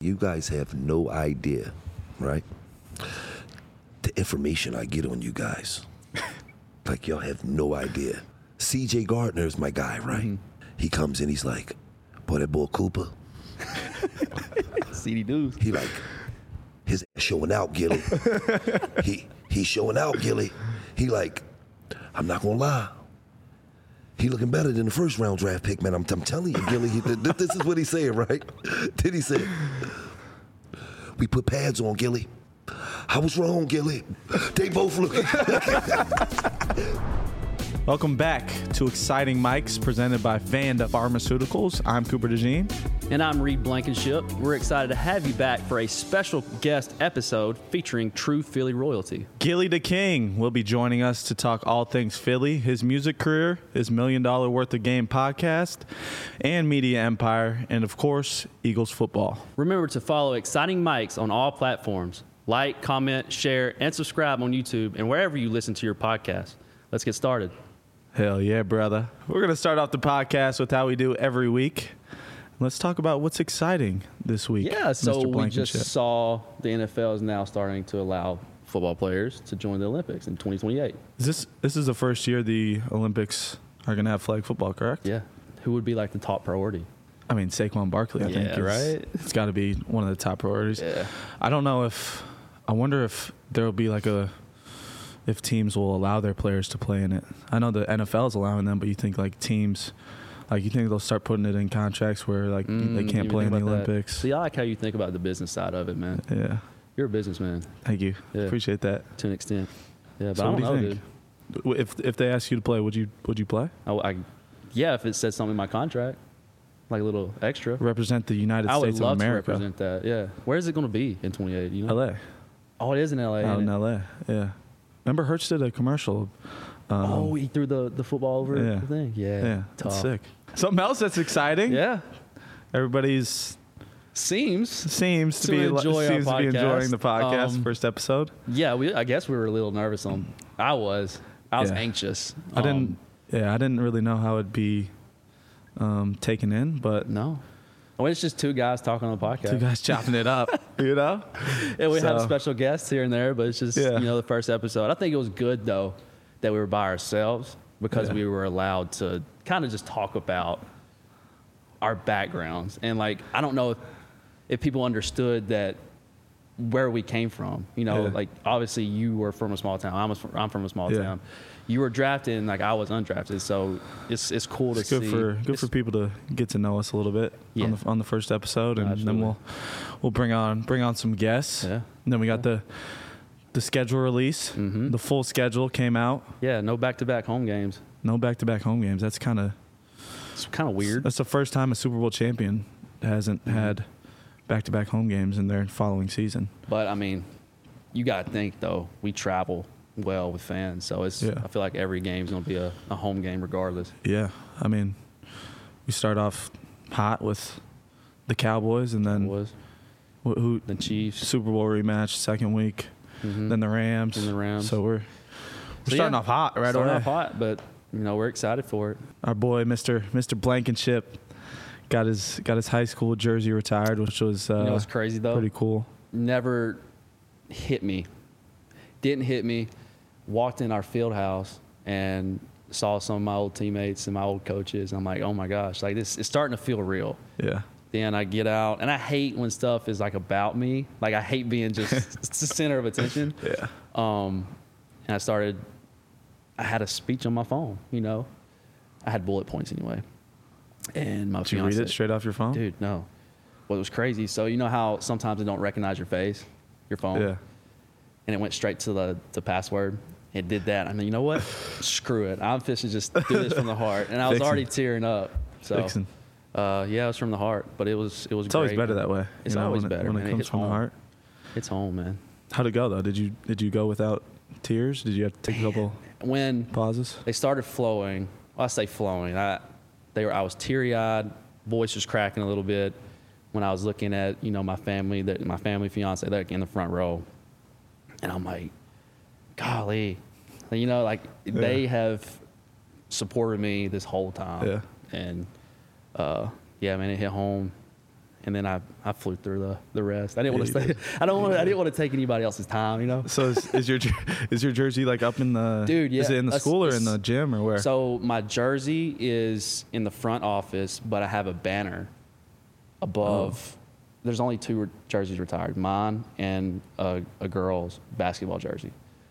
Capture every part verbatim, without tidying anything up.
you guys have no idea, right? The information I get on you guys. Like, y'all have no idea. C J Gardner is my guy, right? Mm-hmm. He comes in, he's like, boy, that boy Cooper. C D dudes. He like, his ass showing out, Gilly. he He's showing out, Gilly. He like, I'm not gonna lie. He looking better than the first round draft pick, man. I'm, I'm telling you, Gilly. He, th- this is what he said, right? Then he said, we put pads on, Gilly. I was wrong, Gilly. They both look. Welcome back to Exciting Mics presented by Vanda Pharmaceuticals. I'm Cooper DeJean. And I'm Reed Blankenship. We're excited to have you back for a special guest episode featuring true Philly royalty. Gilly the King will be joining us to talk all things Philly, his music career, his Million Dollar Worth of Game podcast, and media empire, and of course, Eagles football. Remember to follow Exciting Mics on all platforms. Like, comment, share, and subscribe on YouTube and wherever you listen to your podcast. Let's get started. Hell yeah, brother. We're going to start off the podcast with how we do every week. Let's talk about what's exciting this week. Yeah, so Mister we just saw the N F L is now starting to allow football players to join the Olympics in twenty twenty-eight. Is this this is the first year the Olympics are going to have flag football, correct? Yeah. Who would be like the top priority? I mean, Saquon Barkley, I yeah, think. Is, right? It's got to be one of the top priorities. Yeah. I don't know if – I wonder if there will be like a – if teams will allow their players to play in it. I know the N F L is allowing them, but you think like teams – like, you think they'll start putting it in contracts where, like, mm, they can't play in the Olympics? That. See, I like how you think about the business side of it, man. Yeah. You're a businessman. Thank you. Yeah. Appreciate that. To an extent. Yeah, but so I don't what do you know, think? Dude. If if they ask you to play, would you would you play? I, I, yeah, if it said something in my contract, like a little extra. Represent the United I States of America. I would love to represent that, yeah. Where is it going to be in twenty-eight, you know? L A. Oh, it is in L A. Out in L A, yeah. Remember Hurts did a commercial. Um, oh, he threw the, the football over yeah. the thing? Yeah. Yeah, that's sick. Something else that's exciting. Yeah. Everybody's seems seems to, to be enjoy seems our to be enjoying the podcast. podcast um, first episode. Yeah, we I guess we were a little nervous on. I was. I was yeah. anxious. I didn't. Um, yeah, I didn't really know how it'd be um, taken in, but no. Well, it's just two guys talking on the podcast. Two guys chopping it up, you know. Yeah, we so, have special guests here and there, but it's just yeah. you know the first episode. I think it was good though that we were by ourselves because yeah. we were allowed to kind of just talk about our backgrounds. And like, I don't know if, if people understood that where we came from, you know, yeah. like obviously you were from a small town. I'm, a, I'm from a small yeah. town. You were drafted and like I was undrafted. So it's, it's cool it's to good see. For, good it's, for people to get to know us a little bit yeah. on the, on the first episode. And Absolutely. then we'll, we'll bring on, bring on some guests. Yeah. And then we got yeah. the, the schedule release, mm-hmm. the full schedule came out. Yeah. No back-to-back home games. No back-to-back home games. That's kind of, it's kind of weird. That's the first time a Super Bowl champion hasn't mm-hmm. had back-to-back home games in their following season. But, I mean, you got to think, though, we travel well with fans. So it's yeah. I feel like every game is going to be a, a home game regardless. Yeah. I mean, we start off hot with the Cowboys and then Cowboys. Who, who the Chiefs. Super Bowl rematch second week. Mm-hmm. Then the Rams. And the Rams. So we're, we're so starting yeah, off hot right starting away. Starting off hot, but, you know, we're excited for it. Our boy, Mister Mister Blankenship, got his got his high school jersey retired, which was uh, you know what's crazy though? Pretty cool. Never hit me. Didn't hit me. Walked in our field house and saw some of my old teammates and my old coaches. And I'm like, oh my gosh, like this it's starting to feel real. Yeah. Then I get out, and I hate when stuff is like about me. Like I hate being just the center of attention. Yeah. Um, and I started. I had a speech on my phone. You know, I had bullet points anyway. And my Did fiance, you read it straight off your phone? Dude, no. Well, it was crazy. So you know how sometimes it don't recognize your face, your phone. Yeah. And it went straight to the the password. It did that. I mean, you know what? Screw it. I'm fishing just do this from the heart. And I was Fixin'. already tearing up. So. Fixin'. Uh, yeah, it was from the heart, but it was it was. It's great. always better that way. It's you know, always when better it, when man. it comes it's from home. the heart. It's home, man. How'd it go though? Did you did you go without tears? Did you have to take a couple when pauses? They started flowing. Well, I say flowing. I they were. I was teary eyed, voice was cracking a little bit when I was looking at you know my family, that my family fiance, like in the front row, and I'm like, golly, you know, like yeah. they have supported me this whole time. Yeah. And uh, yeah, man, it hit home. and then I, I flew through the, the rest. I didn't want to stay. I don't want. I didn't want to take anybody else's time. You know. So is, is your jer- is your jersey like up in the? Dude, yeah. Is it in the A- school or it's- in the gym or where? So my jersey is in the front office, but I have a banner above. Oh. There's only two re- jerseys retired, mine and a, a girl's basketball jersey,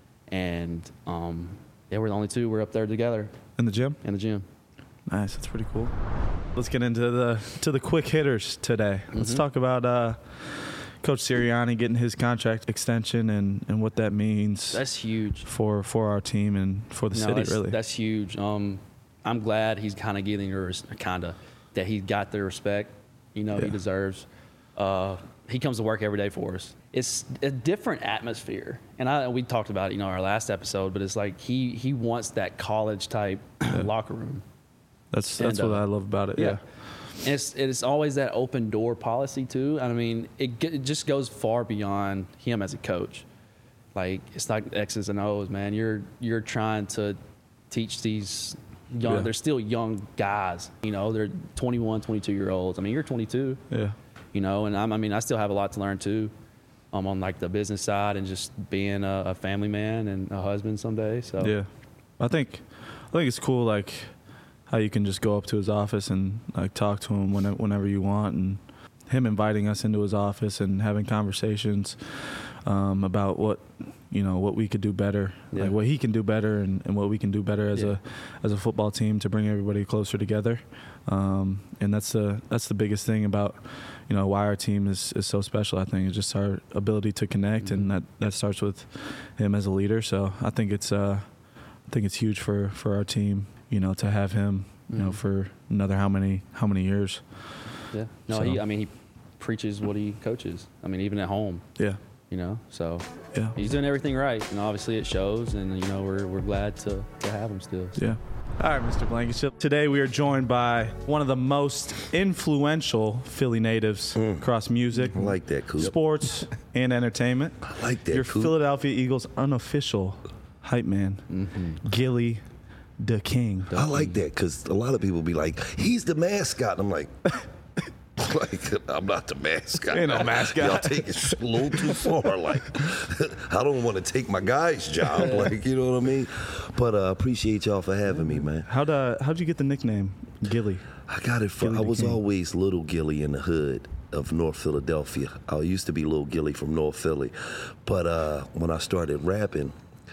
and um, yeah, we're the only two. We're up there together In the gym? in the gym. Nice, that's pretty cool. Let's get into the to the quick hitters today. Let's Mhm. talk about uh, Coach Sirianni getting his contract extension and, and what that means That's huge. for for our team and for the No, city. that's, Really, that's huge. Um, I'm glad he's kind of getting the kind of that he got the respect, you know, Yeah. he deserves. Uh, he comes to work every day for us. It's a different atmosphere, and I we talked about it, you know, our last episode. But it's like he he wants that college type locker room. that's that's and, what uh, I love about it. Yeah, And it's it's always that open door policy too. I mean, it, ge- it just goes far beyond him as a coach. Like it's like X's and O's, man. You're you're trying to teach these young. Yeah. They're still young guys. You know, they're twenty-one, twenty-two year olds. I mean, you're twenty-two. yeah, You know, and I'm, I mean, I still have a lot to learn too. Um, on like the business side and just being a, a family man and a husband someday. So yeah. I think I think it's cool, like how you can just go up to his office and like talk to him whenever, whenever you want, and him inviting us into his office and having conversations um, about what you know what we could do better, Yeah. like what he can do better, and, and what we can do better as Yeah. a as a football team to bring everybody closer together. Um, and that's the that's the biggest thing about you know why our team is, is so special. I think it's just our ability to connect, Mm-hmm. and that, that starts with him as a leader. So I think it's uh, I think it's huge for, for our team, you know, to have him, you know, Mhm. for another how many how many years. yeah. No, So- he. I mean, he preaches what he coaches. I mean, even at home. Yeah, You know, so yeah, he's doing everything right, and obviously it shows. And you know, we're we're glad to, to have him still. So. yeah. All right, Mister Blankenship. Today we are joined by one of the most influential Philly natives across music, I like that, Coop. sports, and entertainment. I like that, Your Coop. Philadelphia Eagles unofficial hype man, Mm-hmm. Gilly the King. I like that because a lot of people be like, he's the mascot. I'm like, like I'm not the mascot. Ain't no mascot. Y'all take it a little too far. Like, I don't want to take my guy's job. Like, you know what I mean? But uh, appreciate y'all for having me, man. How'd uh, how'd you get the nickname Gilly? I got it from, Gilly I the was King. always Little Gilly in the hood of North Philadelphia. I used to be Little Gilly from North Philly. But uh, when I started rapping,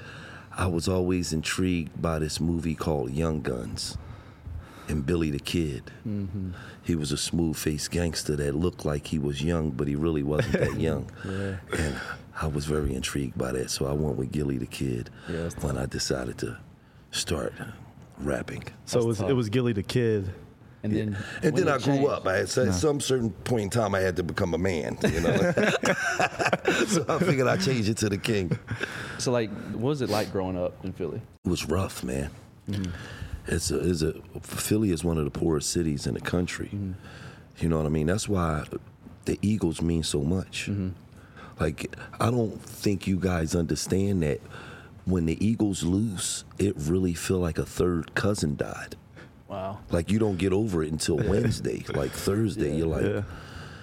I was always intrigued by this movie called Young Guns and Billy the Kid. Mm-hmm. He was a smooth-faced gangster that looked like he was young, but he really wasn't that young. Yeah. And I was very intrigued by that, so I went with Gilly the Kid Yeah, that's when I decided to start rapping. So it was tough. it was Gilly the Kid. And then And when then I it grew changed- up. I had at some certain point in time I had to become a man, you know. So I figured I'd change it to the King. So like, what was it like growing up in Philly? It was rough, man. It's a, it's a Philly is one of the poorest cities in the country. You know what I mean? That's why the Eagles mean so much. Like, I don't think you guys understand that when the Eagles lose, it really feel like a third cousin died. Wow. Like, you don't get over it until Wednesday. Like Thursday, you're like, Yeah.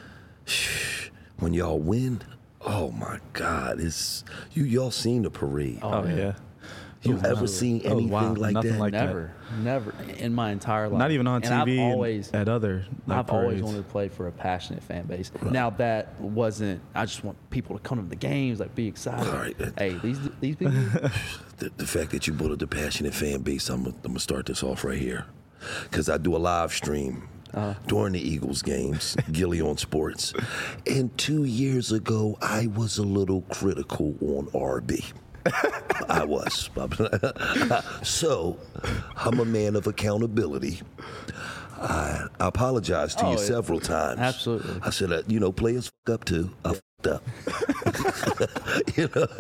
when y'all win, oh my God, it's you. Y'all seen the parade? Oh, yeah. you was ever nuts. seen Oh, anything wow. like Nothing that? like that. Never, never in my entire life. Not even on And T V. I've and always, at other. Like, I've always parades. wanted to play for a passionate fan base. Now that wasn't. I just want people to come to the games, like be excited. All right. Hey, these these people. the, the fact that you brought up the passionate fan base, I'm, I'm gonna start this off right here, because I do a live stream Uh-huh. during the Eagles games, Gilly on Sports, and two years ago I was a little critical on R B. I was. So, I'm a man of accountability. I, I apologize to Oh, you yeah. several times. Absolutely. I said, uh, you know, players fuck up too. I fucked up. you know,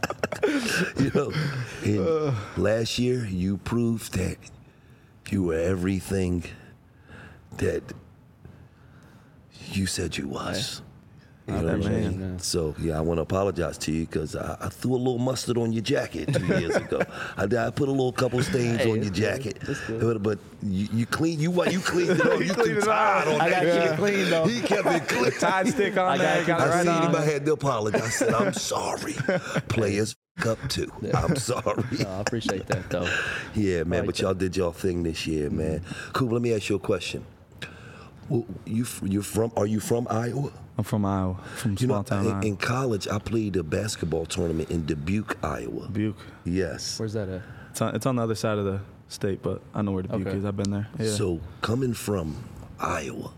you know. And last year, you proved that you were everything that you said you was. You Not know that what I man. mean? man. So yeah, I want to apologize to you because I, I threw a little mustard on your jacket two years ago. I, I put a little couple stains Hey, on your it's jacket, good. It's good. but, but you, you clean you what you cleaned it on. You cleaned too it tired on. on I that. gotta keep shit. it clean though. He kept it clean. Tide stick on I there. got Got you. it I right seen him. on. I had to apologize. I said, I'm sorry. Players f- up too. I'm sorry. No, I appreciate that though. Yeah, man. like But y'all did y'all thing this year, man. Cool. Let me ask you a question. Well, you f- you're from? Are you from Iowa? I'm from Iowa, from You small know, town in, Iowa. in college, I played a basketball tournament in Dubuque, Iowa. Dubuque. Yes. Where's that at? It's on, it's on the other side of the state, but I know where Dubuque Okay. is. I've been there. Yeah. So coming from Iowa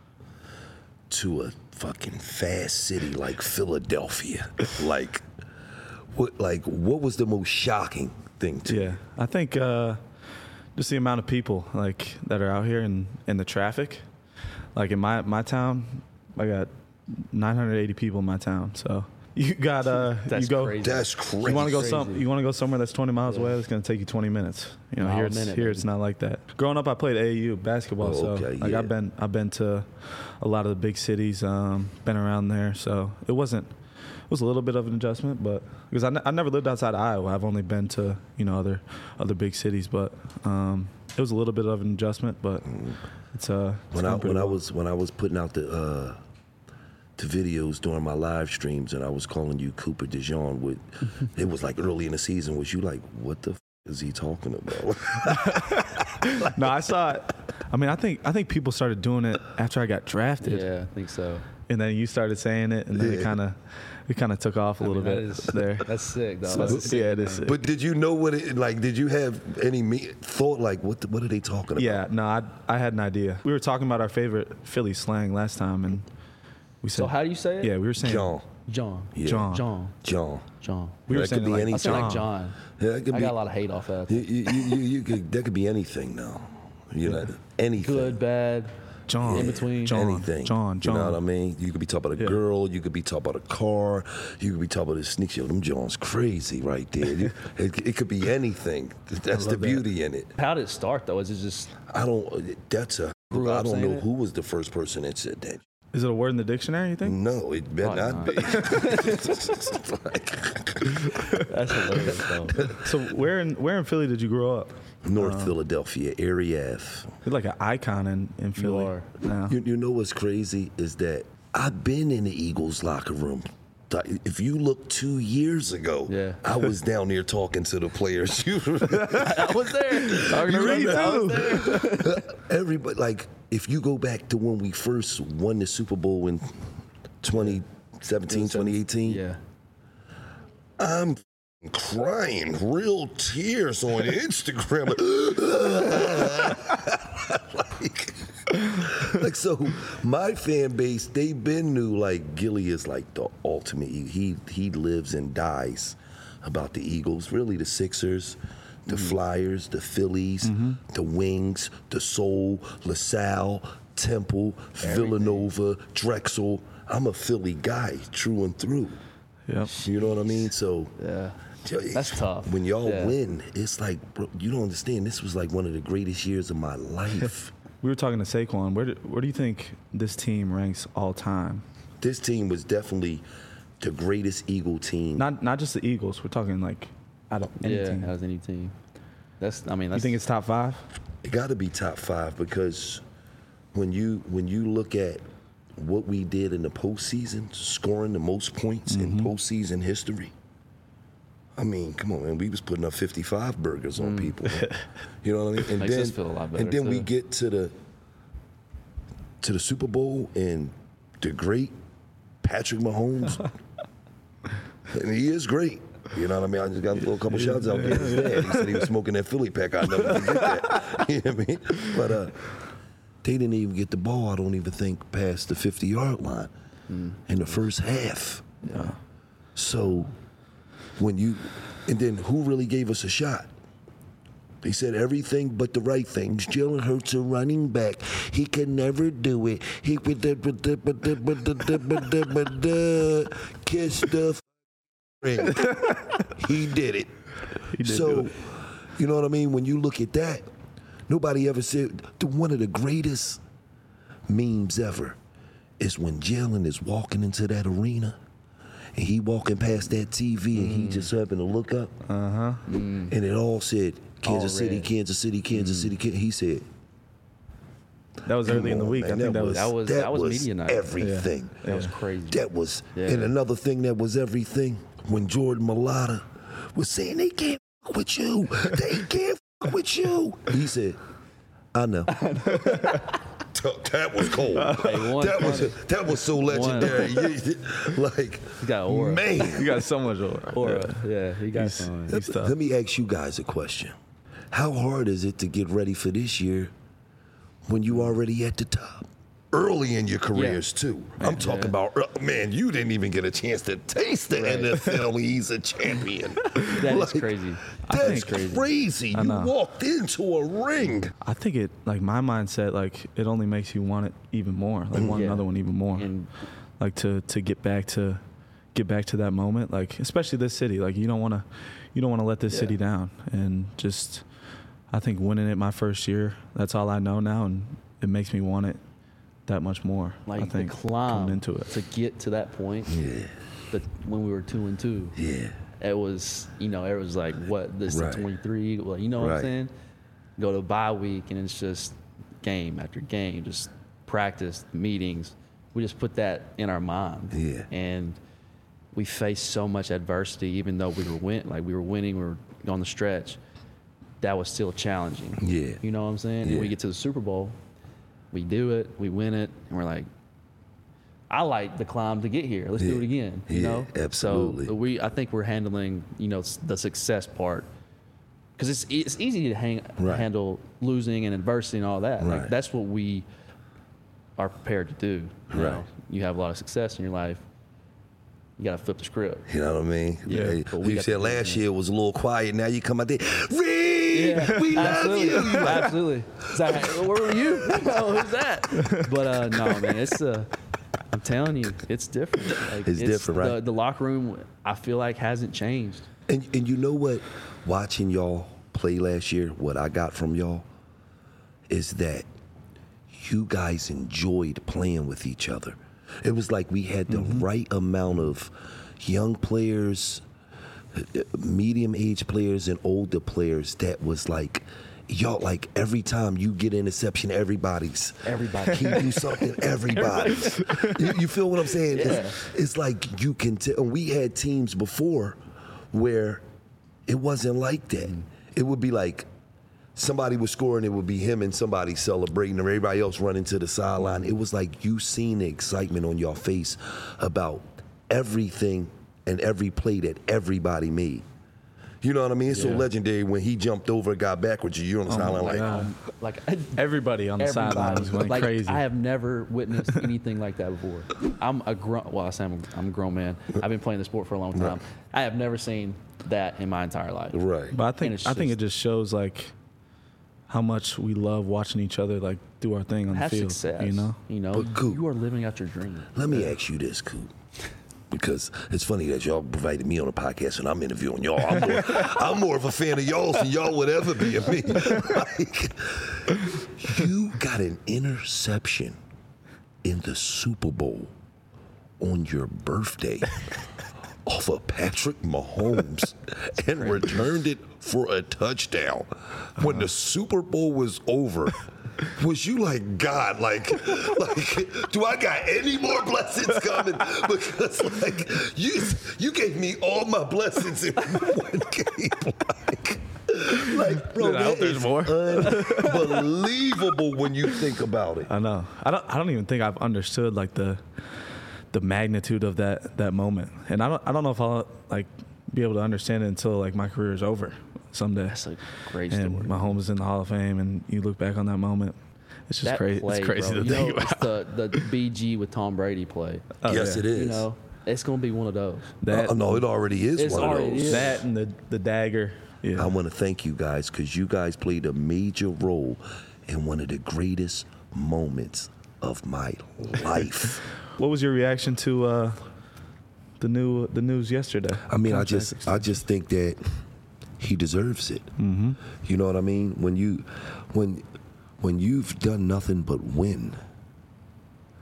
to a fucking fast city like Philadelphia, like what? Like what was the most shocking thing to you? Yeah, I think uh, just the amount of people like that are out here and, and the traffic. Like in my my town, I got nine hundred eighty people in my town. So you got uh, That's you go. crazy. That's crazy. You want to go Crazy. some? You want to go somewhere that's twenty miles Yeah. away? It's going to take you twenty minutes. You know, Mile here a it's minute, here baby. it's not like that. Growing up, I played A A U basketball, Oh, so okay, like yeah. I've been I've been to a lot of the big cities, um, been around there. So it wasn't it was a little bit of an adjustment, but because I, ne- I never lived outside of Iowa, I've only been to you know other other big cities, but um, it was a little bit of an adjustment, but it's uh it's when I gone pretty when I well. was when I was putting out the uh, the videos during my live streams and I was calling you Cooper DeJean with it was like early in the season. Was you like, what the f- is he talking about? No, I saw it. I mean, I think I think people started doing it after I got drafted. Yeah, I think so. And then you started saying it, and then Yeah. it kind of it kind of took off a I little mean, that bit is- there. That's sick though. So, That's a sick yeah, it is thing. sick. But did you know what it like? Did you have any me- thought like what the, what are they talking about? Yeah, no, I I had an idea. We were talking about our favorite Philly slang last time, and we said, So how do you say it? yeah, we were saying John. John. Yeah. John. John. John. John. We were That saying could be like, any I say like John. John. Yeah, that could I be. got a lot of hate off that. You, you, you, you, you could, that could be anything now. You know, anything. Good, bad. John, In between. John, Anything. John, John. You know what I mean? You could be talking about a Yeah. girl. You could be talking about a car. You could be talking about a sneak. Yo, them John's crazy right there. You- it, it could be anything. That's the love that. beauty in it. How did it start though? Is it just I don't. That's a. Grew I up don't saying know it? who was the first person that said that. Is it a word in the dictionary? You think? No, it better Probably not not. be. Like, that's hilarious though. So where in where in Philly did you grow up? North Philadelphia, area F. You're like an icon in in Philly. are. now. You, you know what's crazy is that I've been in the Eagles locker room. Like, if you look two years ago, Yeah. I was down there talking to the players. You I was there. Talking to Me Reed, I was too. there. Everybody, like, if you go back to when we first won the Super Bowl in twenty seventeen, twenty eighteen, Yeah. I'm crying, real tears on Instagram. like, like, so my fan base, they been knew like Gilly is like the ultimate. He he lives and dies about the Eagles, really the Sixers, the Flyers, the Phillies, the Wings, the Soul, LaSalle, Temple, Villanova, Drexel. I'm a Philly guy, true and through. Yep. You know what I mean? So Yeah. That's tough. when y'all Yeah. win, it's like, bro, you don't understand. This was like one of the greatest years of my life. We were talking to Saquon. Where do, where do you think this team ranks all time? This team was definitely the greatest Eagle team. Not not just the Eagles. We're talking like out of any Yeah, team. as any team. That's. I mean, You that's. think it's top five? It got to be top five because when you when you look at what we did in the postseason, scoring the most points Mm-hmm. in postseason history. I mean, come on, man. We was putting up fifty-five burgers on people. You know what I mean? And Makes then, us feel a lot better, and then we too. get to the to the Super Bowl and the great Patrick Mahomes. And he is great. You know what I mean? I just got to throw a couple shots out there. His dad, he said he was smoking that Philly pack. I'll never forget that. You know what I mean? But uh, they didn't even get the ball, I don't even think, past the fifty-yard line in the first half. Yeah. So when you, and then who really gave us a shot? They said everything but the right things. Jalen Hurts a running back. He can never do it. He kiss the ring. He did it. He did so, do it. you know what I mean? When you look at that, nobody ever said the- one of the greatest memes ever is when Jalen is walking into that arena and he walking past that T V mm. and he just happened to look up. Uh-huh. Mm. And it all said, Kansas all City, red. Kansas City, Kansas mm. City, Kansas. He said, that was early in the week. Man, I think that was that was that, that was, was media night. everything. Yeah. That was crazy. That was, yeah. and another thing that was everything, when Jordan Mailata was saying, they can't f- with you. They can't f- with you. He said, I know. That was cold. Hey, one, that was that was so legendary. Like, he got aura. Man, you got so much aura. Aura. Yeah, yeah he got he's, some. He's let, let me ask you guys a question. How hard is it to get ready for this year when you already at the top? Early in your careers, yeah. too. I'm yeah. talking about, man, you didn't even get a chance to taste the right. N F L when he's a champion. That like, is crazy. That's crazy. crazy. You walked into a ring. I think it, like, my mindset, like, it only makes you want it even more. Like, want yeah. another one even more. And, like, to, to get back to get back to that moment, like, especially this city. Like, you don't want to you don't want to let this yeah. city down. And just, I think winning it my first year, that's all I know now, and it makes me want it that much more. Like I think, the climb into it. to get to that point. Yeah. But when we were two and two. Yeah. It was, you know, it was like, what, this right. is twenty-three. Well, you know what right. I'm saying? Go to bye week and it's just game after game, just practice, meetings. We just put that in our mind. Yeah. And we faced so much adversity, even though we were win, like we were winning, we were on the stretch. That was still challenging. Yeah. You know what I'm saying? Yeah. And we get to the Super Bowl. We do it, we win it, and we're like, I like the climb to get here. Let's yeah. do it again. You yeah, know, absolutely. So we, I think we're handling, you know, the success part, because it's it's easy to hang, right. handle losing and adversity and all that. Right. Like, that's what we are prepared to do. You right. know? You have a lot of success in your life. You got to flip the script. You know what I mean? Yeah. yeah. We you said last year was a little quiet. Now you come out there, Reed, yeah, we absolutely. love you. Absolutely. Like, where were you? Oh, who's that? But uh, no, man, it's uh, I'm telling you, it's different. Like, it's, it's different, right? The, the locker room, I feel like, hasn't changed. And and you know what? Watching y'all play last year, what I got from y'all is that you guys enjoyed playing with each other. It was like we had the mm-hmm. right amount of young players, medium-aged players, and older players that was like, y'all, like every time you get an interception, everybody's. Everybody. He do something, everybody's. you, you feel what I'm saying? Yeah. It's, it's like you can tell. We had teams before where it wasn't like that. Mm. It would be like, somebody was scoring, it would be him and somebody celebrating, and everybody else running to the sideline. It was like you seen the excitement on your face about everything and every play that everybody made. You know what I mean? It's yeah. so legendary when he jumped over, got backwards, you're on the oh sideline like, um, like everybody on the everybody. sideline was going like, crazy. I have never witnessed anything like that before. I'm a grown, well, I say I'm a, I'm a grown man. I've been playing the sport for a long time. Right. I have never seen that in my entire life. Right. But I think I just, think it just shows like how much we love watching each other like do our thing on have the field. Success, you know, you know, but Coop, you are living out your dream. Let me ask you this, Coop, because it's funny that y'all provided me on a podcast and I'm interviewing y'all. I'm more, I'm more of a fan of y'all's than y'all would ever be of me. Like, you got an interception in the Super Bowl on your birthday off of Patrick Mahomes and crazy. Returned it for a touchdown. When uh-huh. the Super Bowl was over, was you like, God, like, like, do I got any more blessings coming? Because, like, you you gave me all my blessings in one game. Like, like bro, I hope that there's is more. Unbelievable when you think about it. I know. I don't. I don't even think I've understood like the the magnitude of that that moment, and I don't. I don't know if I'll like be able to understand it until like my career is over someday. That's a great and story. Mahomes is in the Hall of Fame, and you look back on that moment. It's just that crazy. Play, it's crazy bro. to you think know, about. It's the the B G with Tom Brady play. Oh, yes, yeah. it is. You know, it's gonna be one of those. That, uh, no, it already is it's one already of those. is. That and the the dagger. Yeah. I want to thank you guys because you guys played a major role in one of the greatest moments of my life. What was your reaction to uh, the new the news yesterday? I mean, I Contract just extension. I just think that he deserves it. Mm-hmm. You know what I mean? When you when when you've done nothing but win,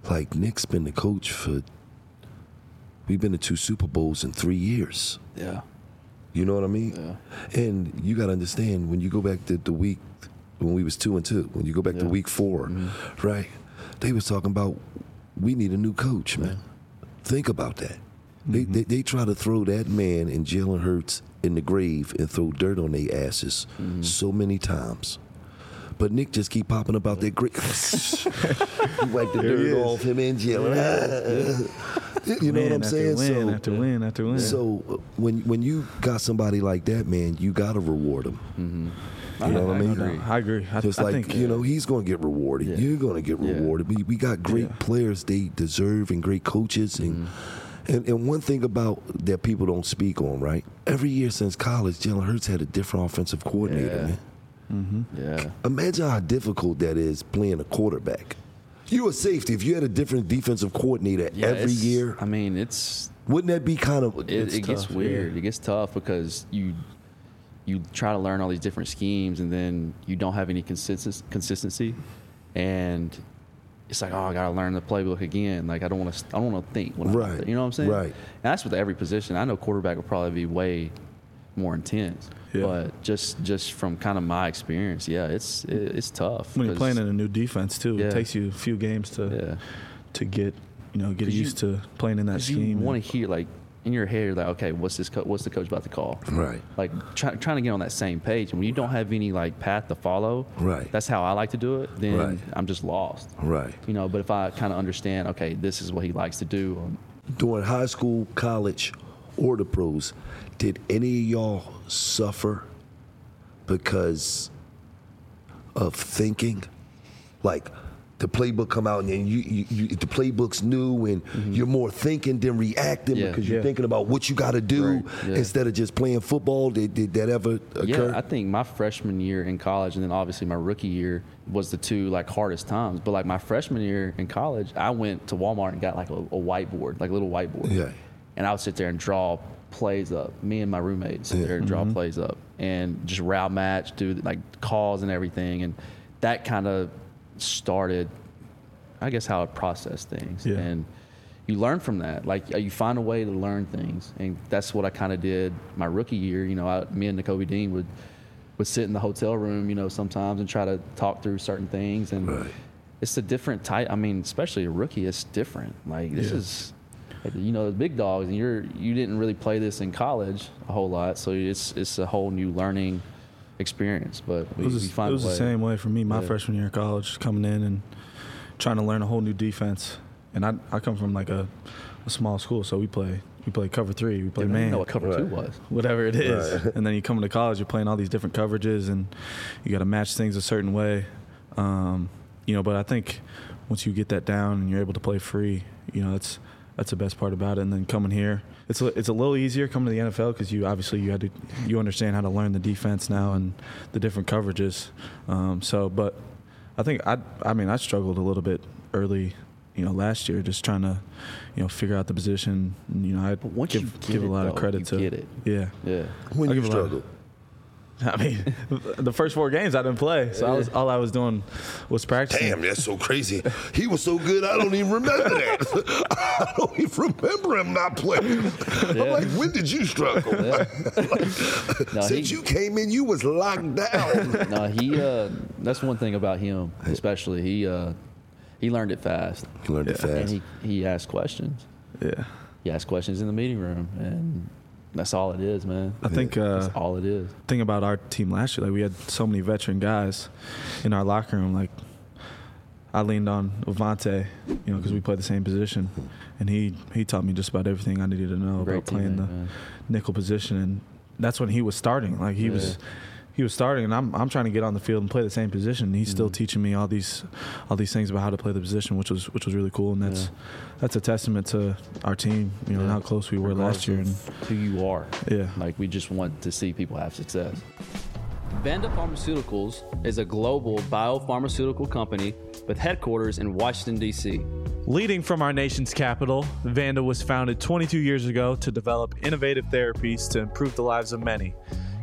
like Nick's been the coach for. We've been to two Super Bowls in three years. Yeah. You know what I mean? Yeah. And you got to understand, when you go back to the week when we was two and two, when you go back yeah. to week four, mm-hmm. right? They was talking about we need a new coach, man. Yeah. Think about that. Mm-hmm. They, they they try to throw that man and Jalen Hurts in the grave and throw dirt on their asses mm-hmm. so many times. But Nick just keep popping about that great. He wiped the dirt off him and Jalen. Yeah. You know win what I'm saying? Win so after win after win. So uh, when when you got somebody like that, man, you gotta reward him. Mm-hmm. You know I, what I mean? I agree. I agree. I, Just I like think, you know, he's gonna get rewarded. Yeah. You're gonna get Yeah. rewarded. We we got great Yeah. players they deserve and great coaches and. Mm-hmm. And, and one thing about that people don't speak on, right? Every year since college, Jalen Hurts had a different offensive coordinator, Yeah. man. Mm-hmm. Yeah. Imagine how difficult that is playing a quarterback. You a safety. If you had a different defensive coordinator Yeah, every it's- year, I mean, it's wouldn't that be kind of? it, It's it gets tough, weird. yeah. It gets tough because you you try to learn all these different schemes and then you don't have any consistency consistency, and it's like, oh, I gotta learn the playbook again. Like I don't want to I don't want to think when I'm out Right. there. You know what I'm saying? Right. And that's with every position. I know quarterback will probably be way more intense. Yeah. But just just from kind of my experience, yeah, it's it, it's tough. When you're 'cause- playing in a new defense too, Yeah. it takes you a few games to yeah. to get you know get 'Cause you- used to playing in that 'Cause you scheme. want to hear, like, in your head, you're like, okay, what's this? Co- what's the coach about to call? Right. Like try, trying to get on that same page. And when you don't have any like path to follow, Right. That's how I like to do it. Then Right. I'm just lost. Right. You know. But if I kind of understand, okay, this is what he likes to do. Or, During high school, college, or the pros, did any of y'all suffer because of thinking? Like the playbook come out and then you, you, you the playbook's new and mm-hmm. you're more thinking than reacting Yeah. because you're Yeah. thinking about what you got to do Right. Yeah. instead of just playing football. Did, did that ever occur? yeah, I think my freshman year in college and then obviously my rookie year was the two like hardest times. But like my freshman year in college, I went to Walmart and got like a, a whiteboard, like a little whiteboard. Yeah. And I would sit there and draw plays up. Me and my roommate sit there and draw Mm-hmm. plays up and just route match, do like calls and everything. And that kind of started, I guess, how I process things. Yeah. And you learn from that. Like you find a way to learn things. And that's what I kind of did my rookie year. You know, I, me and Nakobe Dean would, would sit in the hotel room, you know, sometimes and try to talk through certain things. And Right. it's a different type. I mean, especially a rookie, it's different. Like this Yeah. is, you know, the big dogs, and you're you didn't really play this in college a whole lot, so it's it's a whole new learning experience. But we, It was, we find it was a way. the same way for me. My Yeah. freshman year of college, coming in and trying to learn a whole new defense. And I I come from like a, a small school, so we play we play cover three, we play I didn't man, even know what cover two Right. was. whatever it is. Right. And then you come into college, you're playing all these different coverages, and you got to match things a certain way. Um, you know, but I think once you get that down and you're able to play free, you know, that's that's the best part about it. And then coming here, it's a, it's a little easier coming to the N F L because you obviously you had to you understand how to learn the defense now and the different coverages. Um, so, but I think I I mean I struggled a little bit early, you know, last year just trying to, you know, figure out the position. And, you know, I But once give, you get give a it, lot though, of credit you to get it. Yeah. Yeah. When I'll you give a lot of- struggle. I mean, the first four games I didn't play, so I was all I was doing was practicing. Damn, that's so crazy. He was so good, I don't even remember that. I don't even remember him not playing. I'm Yeah. like, when did you struggle? Yeah. No, Since he- you came in, you was locked down. No, he. Uh, that's one thing about him, especially. He uh, he learned it fast, You learned it Yeah. and fast. he he asked questions. Yeah, He asked questions in the meeting room, and that's all it is, man. I think uh, That's all it is. thing about our team last year, like we had so many veteran guys in our locker room. Like I leaned on Avante, you know, because we played the same position, and he he taught me just about everything I needed to know Great about playing teammate, the man. nickel position, and that's when he was starting. Like he Yeah. was. He was starting, and I'm I'm trying to get on the field and play the same position. And he's Mm-hmm. still teaching me all these, all these things about how to play the position, which was which was really cool. And that's Yeah. that's a testament to our team, you know, and Yeah. how close we were last year. And Who you are. yeah, Like, we just want to see people have success. Vanda Pharmaceuticals is a global biopharmaceutical company with headquarters in Washington, D C Leading from our nation's capital, Vanda was founded twenty-two years ago to develop innovative therapies to improve the lives of many,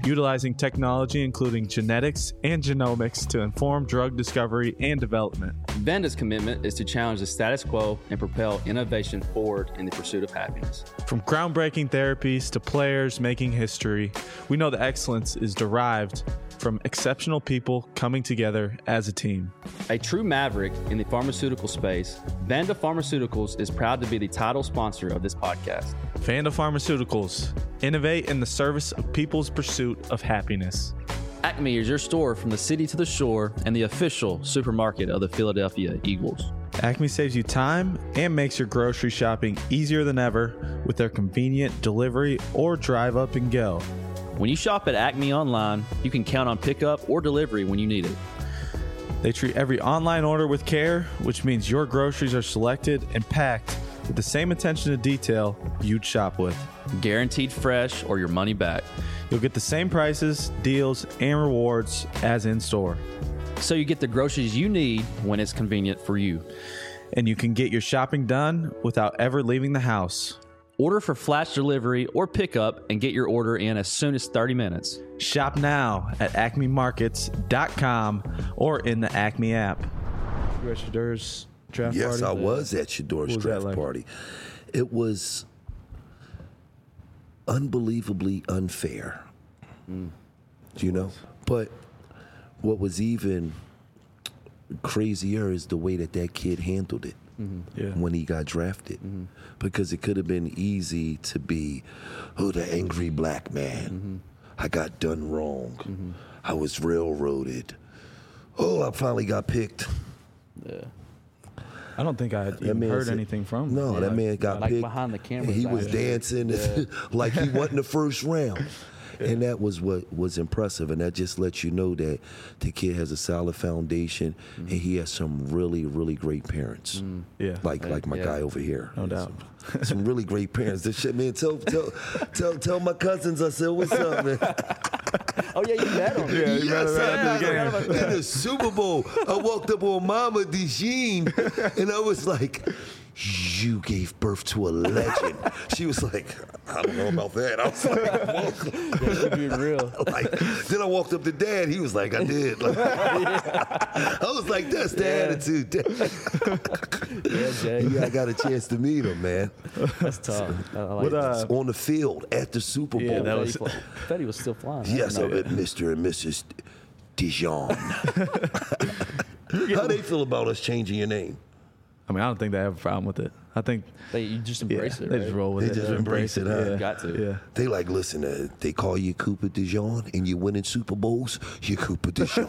utilizing technology including genetics and genomics to inform drug discovery and development. Vanda's commitment is to challenge the status quo and propel innovation forward in the pursuit of happiness. From groundbreaking therapies to players making history, we know the excellence is derived from exceptional people coming together as a team. A true maverick in the pharmaceutical space, Vanda Pharmaceuticals is proud to be the title sponsor of this podcast. Vanda Pharmaceuticals, innovate in the service of people's pursuit of happiness. Acme is your store from the city to the shore and the official supermarket of the Philadelphia Eagles. Acme saves you time and makes your grocery shopping easier than ever with their convenient delivery or drive up and go. When you shop at Acme online, you can count on pickup or delivery when you need it. They treat every online order with care, which means your groceries are selected and packed with the same attention to detail you'd shop with. Guaranteed fresh or your money back. You'll get the same prices, deals, and rewards as in store. So you get the groceries you need when it's convenient for you. And you can get your shopping done without ever leaving the house. Order for flash delivery or pickup and get your order in as soon as thirty minutes. Shop now at acme markets dot com or in the Acme app. You at Shadur's draft yes, party? I was at Shadur's was draft that like? party. It was unbelievably unfair. Mm. You know? But what was even crazier is the way that that kid handled it. Mm-hmm. Yeah. When he got drafted, Mm-hmm. because it could have been easy to be, oh, the angry black man. Mm-hmm. I got done wrong. Mm-hmm. I was railroaded. Oh, I finally got picked. Yeah. I don't think I had That even man heard said- anything from him. No, Yeah, that like- man got like picked. behind the camera, and he it's was like- dancing like he wasn't the first round. And that was what was impressive, and that just lets you know that the kid has a solid foundation, Mm-hmm. and he has some really, really great parents. Yeah. Like like my Yeah. guy over here. No doubt. Some, some really great parents. This shit, man. Tell tell tell tell my cousins I said what's up, man. Oh, yeah, you met him. Yeah, you Yes, met him I at the met game. him. In the Super Bowl, I walked up on Mama DeJean, and I was like, "You gave birth to a legend." She was like, "I don't know about that." I was like, Yeah, you being real. like, then I walked up to Dad. He was like, "I did." Like, I was like, "That's the Yeah. attitude." Yeah, Jay. Yeah, I got a chance to meet him, man. That's tough. I like What, that. uh, On the field at the Super Bowl. Yeah, that I was- thought he fl- I thought he was still flying. I Yes, didn't know. uh, Mister and Missus Dijon. How they feel about us changing your name? I mean, I don't think they have a problem with it. I think They, you just yeah, embrace it, they right? just roll with They it. just They embrace it, huh? Yeah. Got to. Yeah. They like, listen, uh, they call you Cooper Dijon and you're winning Super Bowls, you're Cooper Dijon.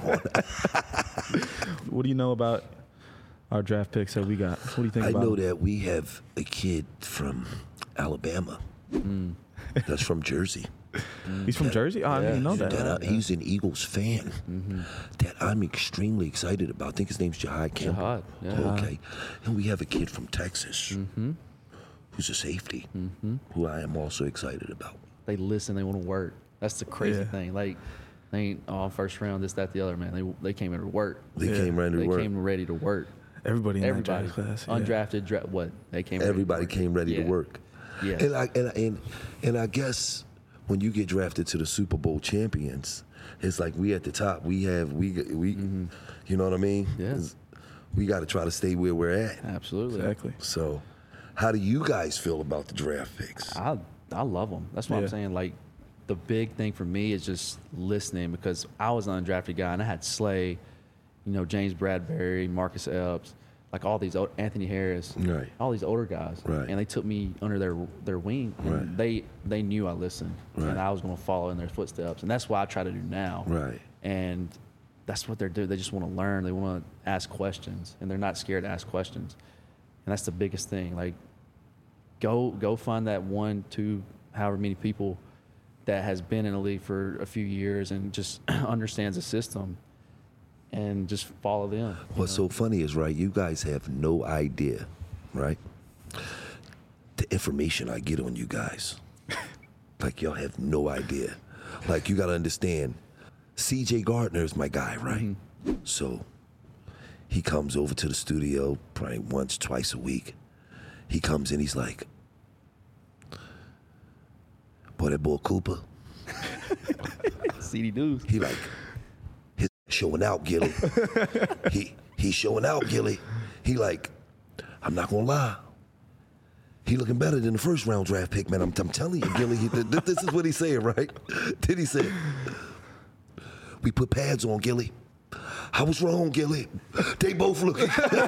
What do you know about our draft picks that we got? What do you think I about know them? that we have a kid from Alabama that's from Jersey. He's from Jersey? Oh, I didn't even know that. That I, he's an Eagles fan that I'm extremely excited about. I think his name's Jahad Campbell. Jahad, yeah. Okay. And we have a kid from Texas who's a safety who I am also excited about. They listen. They want to work. That's the crazy Yeah. thing. Like, they ain't oh first round, this, that, the other. Man, they they came in to work. They Yeah. came ready to They work. came ready to work. Everybody in Everybody, that draft class. yeah. undrafted, dra- what they came. ready to Everybody work. came ready Yeah. to work. Yeah. And I and, I- and and I guess when you get drafted to the Super Bowl champions, it's like we at the top. We have we we you know what I mean? Yeah. It's- We got to try to stay where we're at. Absolutely. Exactly. So, how do you guys feel about the draft picks? I I love them. That's what Yeah. I'm saying. Like, the big thing for me is just listening, because I was an undrafted guy and I had Slay, you know, James Bradbury, Marcus Epps, like all these old, Anthony Harris, Right. all these older guys, Right. and they took me under their their wing, and Right. they they knew I listened, Right. and I was going to follow in their footsteps, and that's what I try to do now. Right. And that's what they're doing. They just want to learn. They want to ask questions, and they're not scared to ask questions, and that's the biggest thing. Like, go go find that one, two, however many people that has been in the league for a few years and just understands the system, and just follow them. What's so funny is, right, you guys have no idea, right? The information I get on you guys. Like, y'all have no idea. Like, you got to understand, C J Gardner is my guy, right? So he comes over to the studio probably once, twice a week. He comes in, he's like, boy, that boy Cooper. C D News. He like, his showing out, Gilly. he he showing out, Gilly. He like, I'm not gonna lie. He looking better than the first round draft pick, man. I'm, I'm telling you, Gilly. He, th- this is what he said, right? Then he said, we put pads on, Gilly. I was wrong, Gilly. They both look.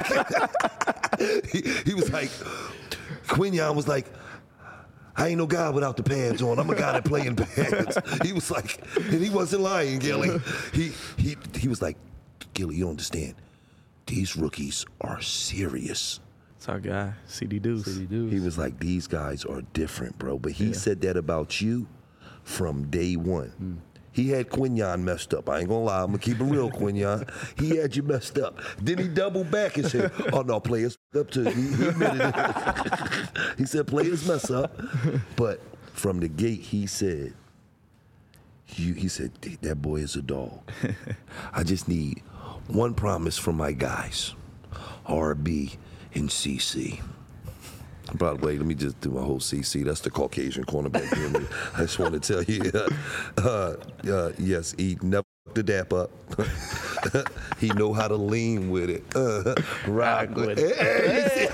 he, he was like, Quinyon was like, I ain't no guy without the pads on. I'm a guy that play in pads. He was like, and he wasn't lying, Gilly. He he he was like, Gilly, you don't understand. These rookies are serious. It's our guy, C D Deuce. C D Deuce. He was like, these guys are different, bro. But he Yeah. said that about you from day one. Mm. He had Quinyon messed up. I ain't gonna lie, I'm gonna keep it real, Quinyon. He had you messed up. Then he doubled back and said, oh no, players up too. He, he admitted it. He said players mess up. But from the gate, he said, you, he said, that boy is a dog. I just need one promise from my guys, R B and C C. By the way, let me just do my whole C C. That's the Caucasian cornerback. Here. I just want to tell you, uh, uh, yes, he never f***ed the dap up. He know how to lean with it. Uh, rock with it. Hey,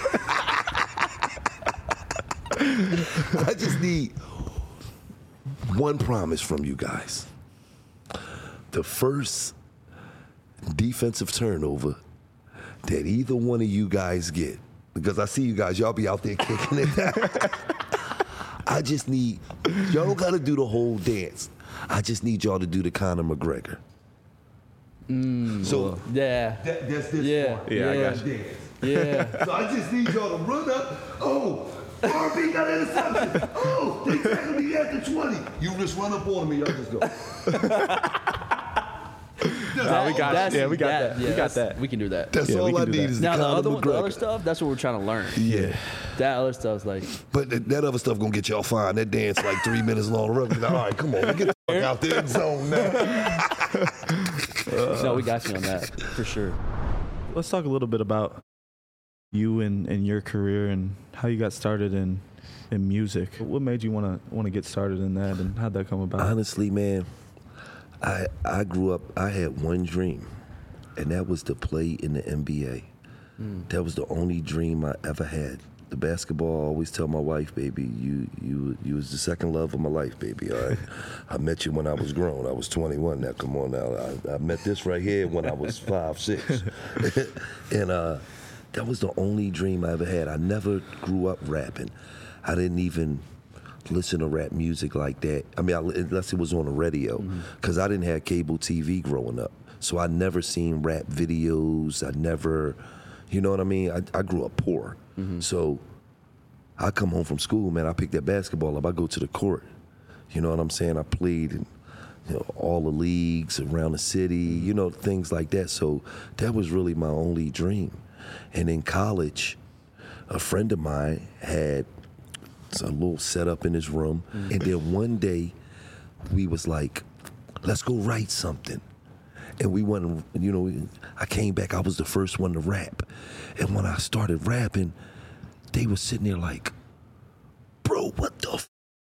I just need one promise from you guys. The first defensive turnover that either one of you guys get, because I see you guys, y'all be out there kicking it. I just need, y'all don't gotta do the whole dance. I just need y'all to do the Conor McGregor. Mm, so yeah, that, that's this yeah, part. Yeah, I yeah, got you. Dance. yeah. So I just need y'all to run up. Oh, R B got an interception. Oh, they tackled me at the twenty. You just run up on me, y'all just go. Nah, we got That's- yeah, we got that. yeah, we got that's- that. We can do that. That's Yeah, we all can I do need that. is the Now the Conor other, one, the other McGregor. stuff, that's what we're trying to learn. Yeah. That other stuff's like, But th- that other stuff gonna get y'all fine. That dance like three minutes long. Like, all right, come on, get the fuck out the end zone now. no, we got you on that for sure. Let's talk a little bit about you and, and your career and how you got started in in music. What made you want to want to get started in that, and how'd that come about? Honestly, man, I I grew up. I had one dream, and that was to play in the N B A. Mm. That was the only dream I ever had. The basketball. I always tell my wife, baby, you you you was the second love of my life, baby. All right, I met you when I was grown. I was twenty-one. Now, come on, now I, I met this right here when I was five, six, and uh, that was the only dream I ever had. I never grew up rapping. I didn't even listen to rap music like that. I mean, I, unless it was on the radio, because mm-hmm. I didn't have cable T V growing up. So I never seen rap videos. I never, you know what I mean? I, I grew up poor. Mm-hmm. So I come home from school, man, I pick that basketball up. I go to the court. You know what I'm saying? I played in you know, all the leagues around the city, you know, things like that. So that was really my only dream. And in college, a friend of mine had a little setup in his room. Mm-hmm. And then one day we was like, let's go write something. And we went, you know, I came back, I was the first one to rap. And when I started rapping, they were sitting there like, bro, what the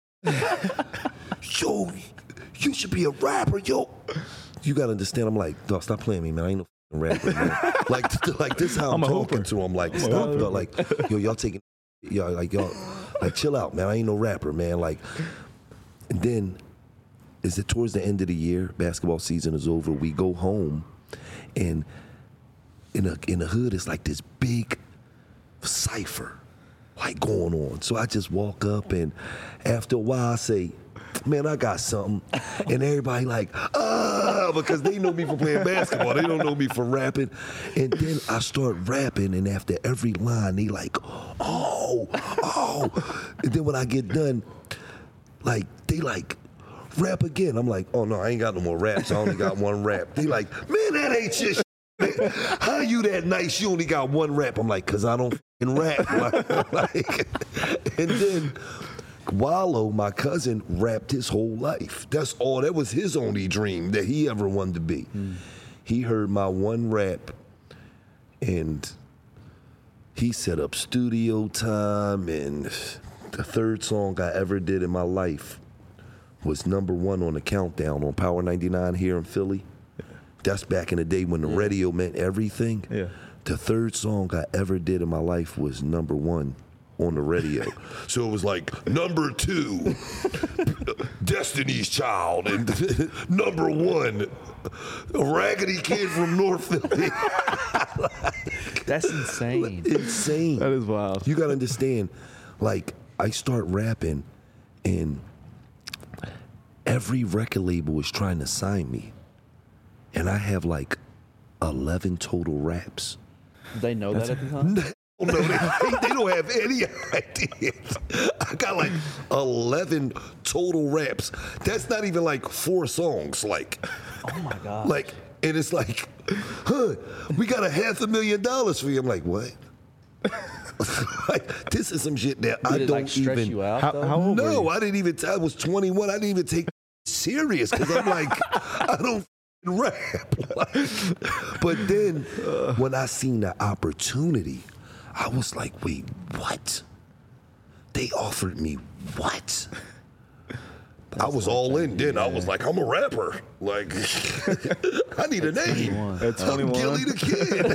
f? Yo, you should be a rapper, yo. You gotta understand, I'm like, dog, stop playing me, man. I ain't no f***ing rapper, man. like, like this how I'm, I'm talking to him. Like, stop, dog. Like, yo, y'all taking, y'all, like, y'all, like, chill out, man. I ain't no rapper, man. Like, and then, is it towards the end of the year, basketball season is over, we go home, and in a in the hood, it's like this big cipher, like, going on. So I just walk up, and after a while, I say, man, I got something. And everybody like, ah, because they know me for playing basketball. They don't know me for rapping. And then I start rapping, and after every line, they like, oh, oh. And then when I get done, like, they like, rap again. I'm like, oh no, I ain't got no more raps. I only got one rap. They like, man, that ain't your shit. How you that nice? You only got one rap. I'm like, cause I don't f***ing rap. Like, like, and then Wallow, my cousin, rapped his whole life. That's all. That was his only dream that he ever wanted to be. Mm. He heard my one rap, and he set up studio time. And the third song I ever did in my life was number one on the countdown on Power ninety-nine here in Philly. That's back in the day when the Yeah. radio meant everything. Yeah. The third song I ever did in my life was number one on the radio. So it was like number two, Destiny's Child, and number one, a Raggedy Kid from North Philly. That's insane. Insane. That is wild. You gotta understand, like, I start rapping, and every record label is trying to sign me, and I have like eleven total raps. They know that at the time? No, they, they don't have any idea. I got like eleven total raps. That's not even like four songs. Like, Oh my God. like, and it's like, huh, we got a half a million dollars for you. I'm like, what? Like, this is some shit that I Did it don't like stress even. you out? How, though? how old were No, you? I didn't even. I was twenty-one. I didn't even take serious because I'm like, I don't rap. Like, but then when I seen the opportunity, I was like, wait, what? They offered me what? I was all in then. I was like, I'm a rapper. Like, I need a name. At I'm twenty-one? Gilly the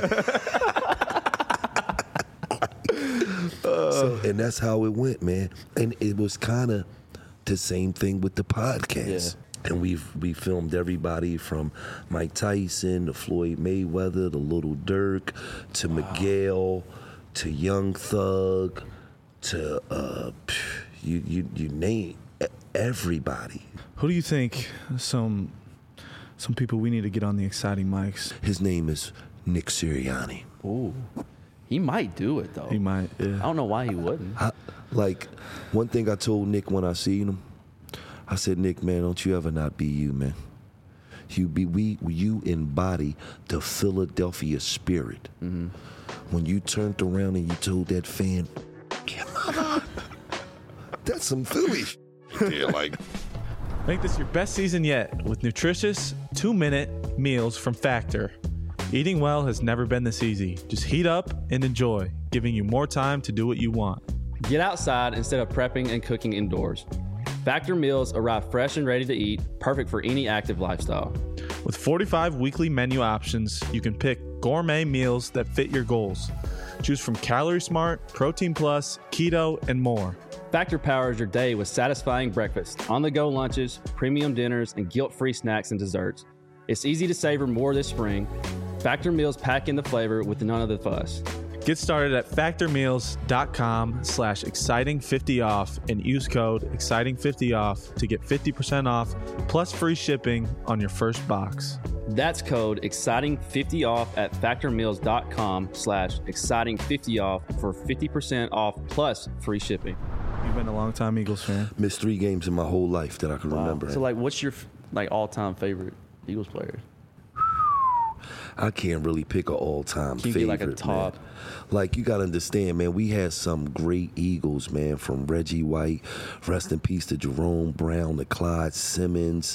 Kid. So, and that's how it went, man. And it was kind of the same thing with the podcast. And we've we filmed everybody from Mike Tyson to Floyd Mayweather to Little Dirk to Miguel to Young Thug to uh, you you you name everybody. Who do you think some some people we need to get on the exciting mics? His name is Nick Sirianni. Ooh. He might do it, though. He might. Yeah. I don't know why he wouldn't. I, like one thing I told Nick when I seen him, I said, Nick, man, don't you ever not be you, man. You be we you embody the Philadelphia spirit. Mm-hmm. When you turned around and you told that fan, "Yeah, mama," that's some Philly. Yeah, like. Make this your best season yet with nutritious two-minute meals from Factor. Eating well has never been this easy. Just heat up and enjoy, giving you more time to do what you want. Get outside instead of prepping and cooking indoors. Factor meals arrive fresh and ready to eat, perfect for any active lifestyle. With forty-five weekly menu options, you can pick gourmet meals that fit your goals. Choose from Calorie Smart, Protein Plus, Keto, and more. Factor powers your day with satisfying breakfast, on-the-go lunches, premium dinners, and guilt-free snacks and desserts. It's easy to savor more this spring. Factor meals pack in the flavor with none of the fuss. Get started at factormeals.com slash exciting50 off and use code exciting fifty off to get fifty percent off plus free shipping on your first box. That's code exciting fifty off at factormeals.com slash exciting fifty off for fifty percent off plus free shipping. You've been a long time Eagles fan. Missed three games in my whole life that I can remember. So, like, what's your like all-time favorite Eagles players? I can't really pick an all-time Can you favorite, get, like, a top? man. Like, you got to understand, man, we had some great Eagles, man, from Reggie White, rest in peace to Jerome Brown, to Clyde Simmons,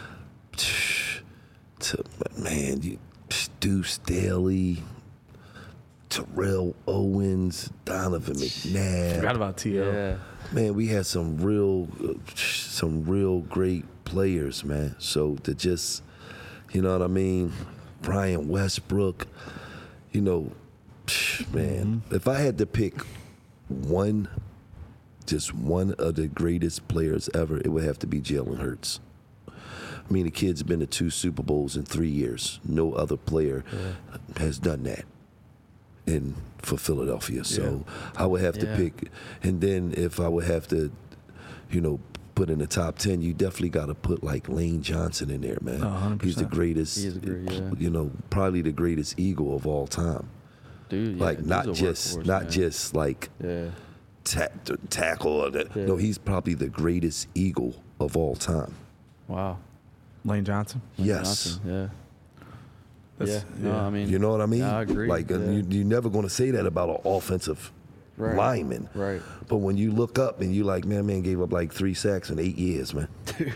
to, man, you, Deuce Staley, Terrell Owens, Donovan McNabb. Forgot about T O. Yeah. Man, we had some real, uh, some real great players, man. So to just, you know what I mean, Brian Westbrook, you know, man. Mm-hmm. If I had to pick one, just one of the greatest players ever, it would have to be Jalen Hurts. I mean, the kid's been to two Super Bowls in three years. No other player yeah. has done that in for Philadelphia. So yeah. I would have to yeah. pick. And then if I would have to, you know, put in the top ten, you definitely got to put like Lane Johnson in there, man. Oh, one hundred percent. He's the greatest, He is great, yeah. you know, probably the greatest Eagle of all time. Dude, yeah, like not just, workhorse, not man. just like yeah. ta- tackle. Or that. Yeah. No, he's probably the greatest Eagle of all time. Wow. Lane Johnson. Lane Yes. Johnson, yeah. That's, yeah. No, I mean, You know what I mean? Yeah, I agree. Like, uh, yeah. you, you're never going to say that about an offensive Right. lineman. Right. But when you look up and you like, man, man gave up like three sacks in eight years, man.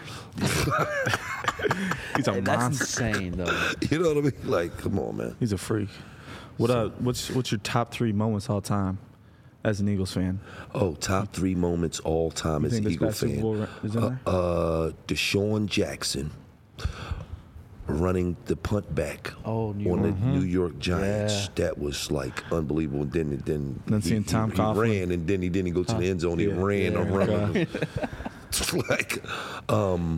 He's a Hey, that's monster. insane, though. You know what I mean? Like, come on, man. He's a freak. What uh? What's what's your top three moments all time as an Eagles fan? Oh, top three moments all time You as think an this Eagle past Super fan. Bowl is in Uh, there? uh, Deshaun Jackson running the punt back Oh, New on the York. New York Giants. Yeah. That was like unbelievable. And then, then, Then he, seeing he- Tom he, Coughlin. ran, and then he didn't go to the end zone. He Yeah. ran Yeah, around. right. It's like, um,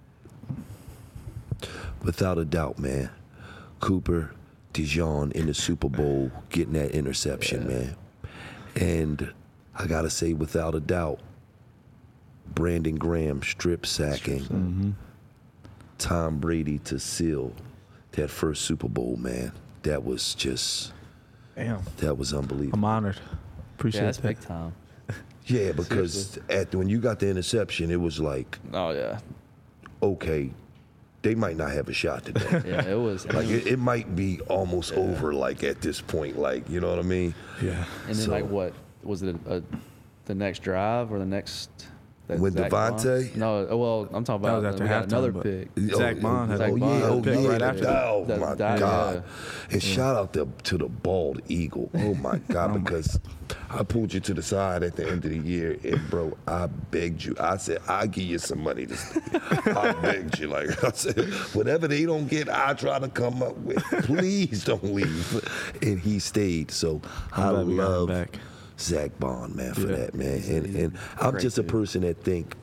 without a doubt, man, Cooper DeJean in the Super Bowl getting that interception, man. And I gotta say, without a doubt, Brandon Graham strip sacking Mm-hmm. Tom Brady to seal that first Super Bowl, man. That was just, Damn. that was unbelievable. I'm honored. Appreciate Yeah, that's that. big time. Yeah, because at when you got the interception, it was like, Oh yeah, okay, they might not have a shot today. yeah. It was. Like and, it, it might be almost over. Like at this point, like you know what I mean? Yeah. and then so- like what was it? A, the next drive or the next? that With Zach Devontae? Bond? No, uh, well, I'm talking That about was after we got halftime, another but- pick. Zach Bond had oh, a- oh, Bond yeah, had a oh, pick yeah, right that- after oh that- my that- God! yeah. And shout out to to the bald eagle. Oh my God! Because I pulled you to the side at the end of the year, and bro, I begged you. I said I'll give you some money to stay. I begged you, like I said, whatever they don't get, I try to come up with. Please don't leave. And he stayed. So I'm I glad we got him love back. Zach Bond, man, for Yeah. that, man. And and I'm Great just a dude. person that think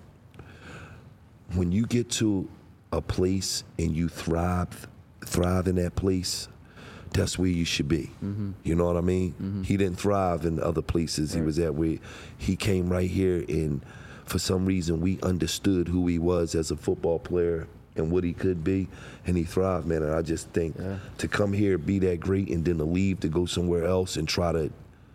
when you get to a place and you thrive thrive in that place, that's where you should be. Mm-hmm. You know what I mean? He didn't thrive in other places. He was at where he came right here, and for some reason we understood who he was as a football player and what he could be, and he thrived, man. And I just think Yeah. to come here, be that great, and then to leave to go somewhere else and try to.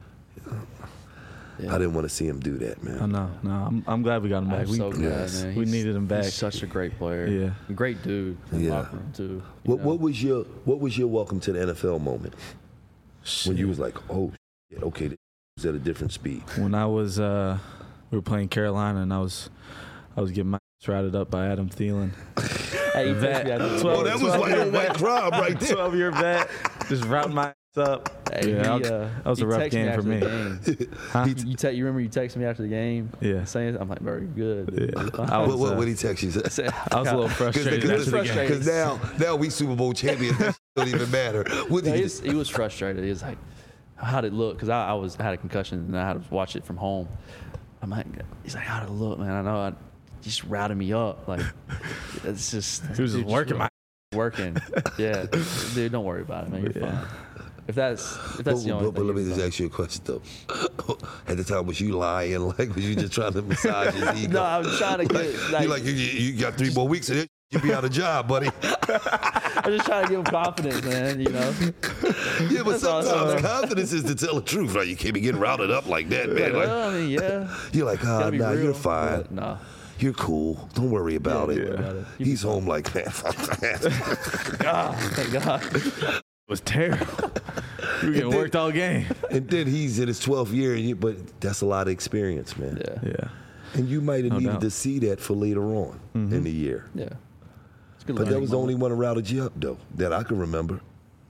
Yeah. I didn't want to see him do that, man. I know. No, I'm, I'm glad we got him back. I'm we, so glad, yes. man. we He's- needed him back. He's such a great player. Yeah. Great dude. In the Yeah. locker room too. you What, know? what was your What was your welcome to the N F L moment when you was like, oh, shit, okay, this is at a different speed? When I was, uh, we were playing Carolina, and I was, I was getting my ass routed up by Adam Thielen. Hey, you Vet. texted me after the Twelve- Oh, game. that was like a white crowd right there. twelve year vet, just routing my ass up. Hey, yeah, he, I was- uh, that was he a rough texted game for after me. the game. Huh? You, you, te- you remember you texted me after the game? Yeah. Saying, I'm like, very good. Yeah. I I What, was, what, uh, what he text you? was, I was a little frustrated Because after the game. frustrated. now, now we Super Bowl champions. That don't even matter. What No, did he, you was, he was frustrated. He was like, "How'd it look?" Because I, I was I had a concussion and I had to watch it from home. I'm like, he's like, "How'd it look, man?" I know I just routed me up. Like, it's just He was just dude, working my. working. Yeah, dude, don't worry about it, man. You're Yeah. fine. If that's if But, that's the only but, but thing. let me you're just fine. ask you a question though. At the time, was you lying? Like, was you just trying to massage his ego? No, I was trying to get Like, like, you like you, you got three more weeks and then you be out of job, buddy. I was just trying to give him confidence, man. You know. Yeah, but That's all, sometimes so- confidence is to tell the truth. Right? You can't be getting routed up like that, man. Like, Well, I mean, yeah. you're like, ah, Gotta be nah, real, you're fine. but Nah. You're cool. Don't worry about Yeah, it. don't worry about it. You He's home like, man, fuck that. God, thank God. It was terrible. We were getting then- worked all game. And then he's in his twelfth year, and you, but that's a lot of experience, man. Yeah. Yeah. And you might have No needed doubt. to see that for later on in the year. Yeah. It's a good But that learning was the only moment. one that routed you up, though, that I can remember.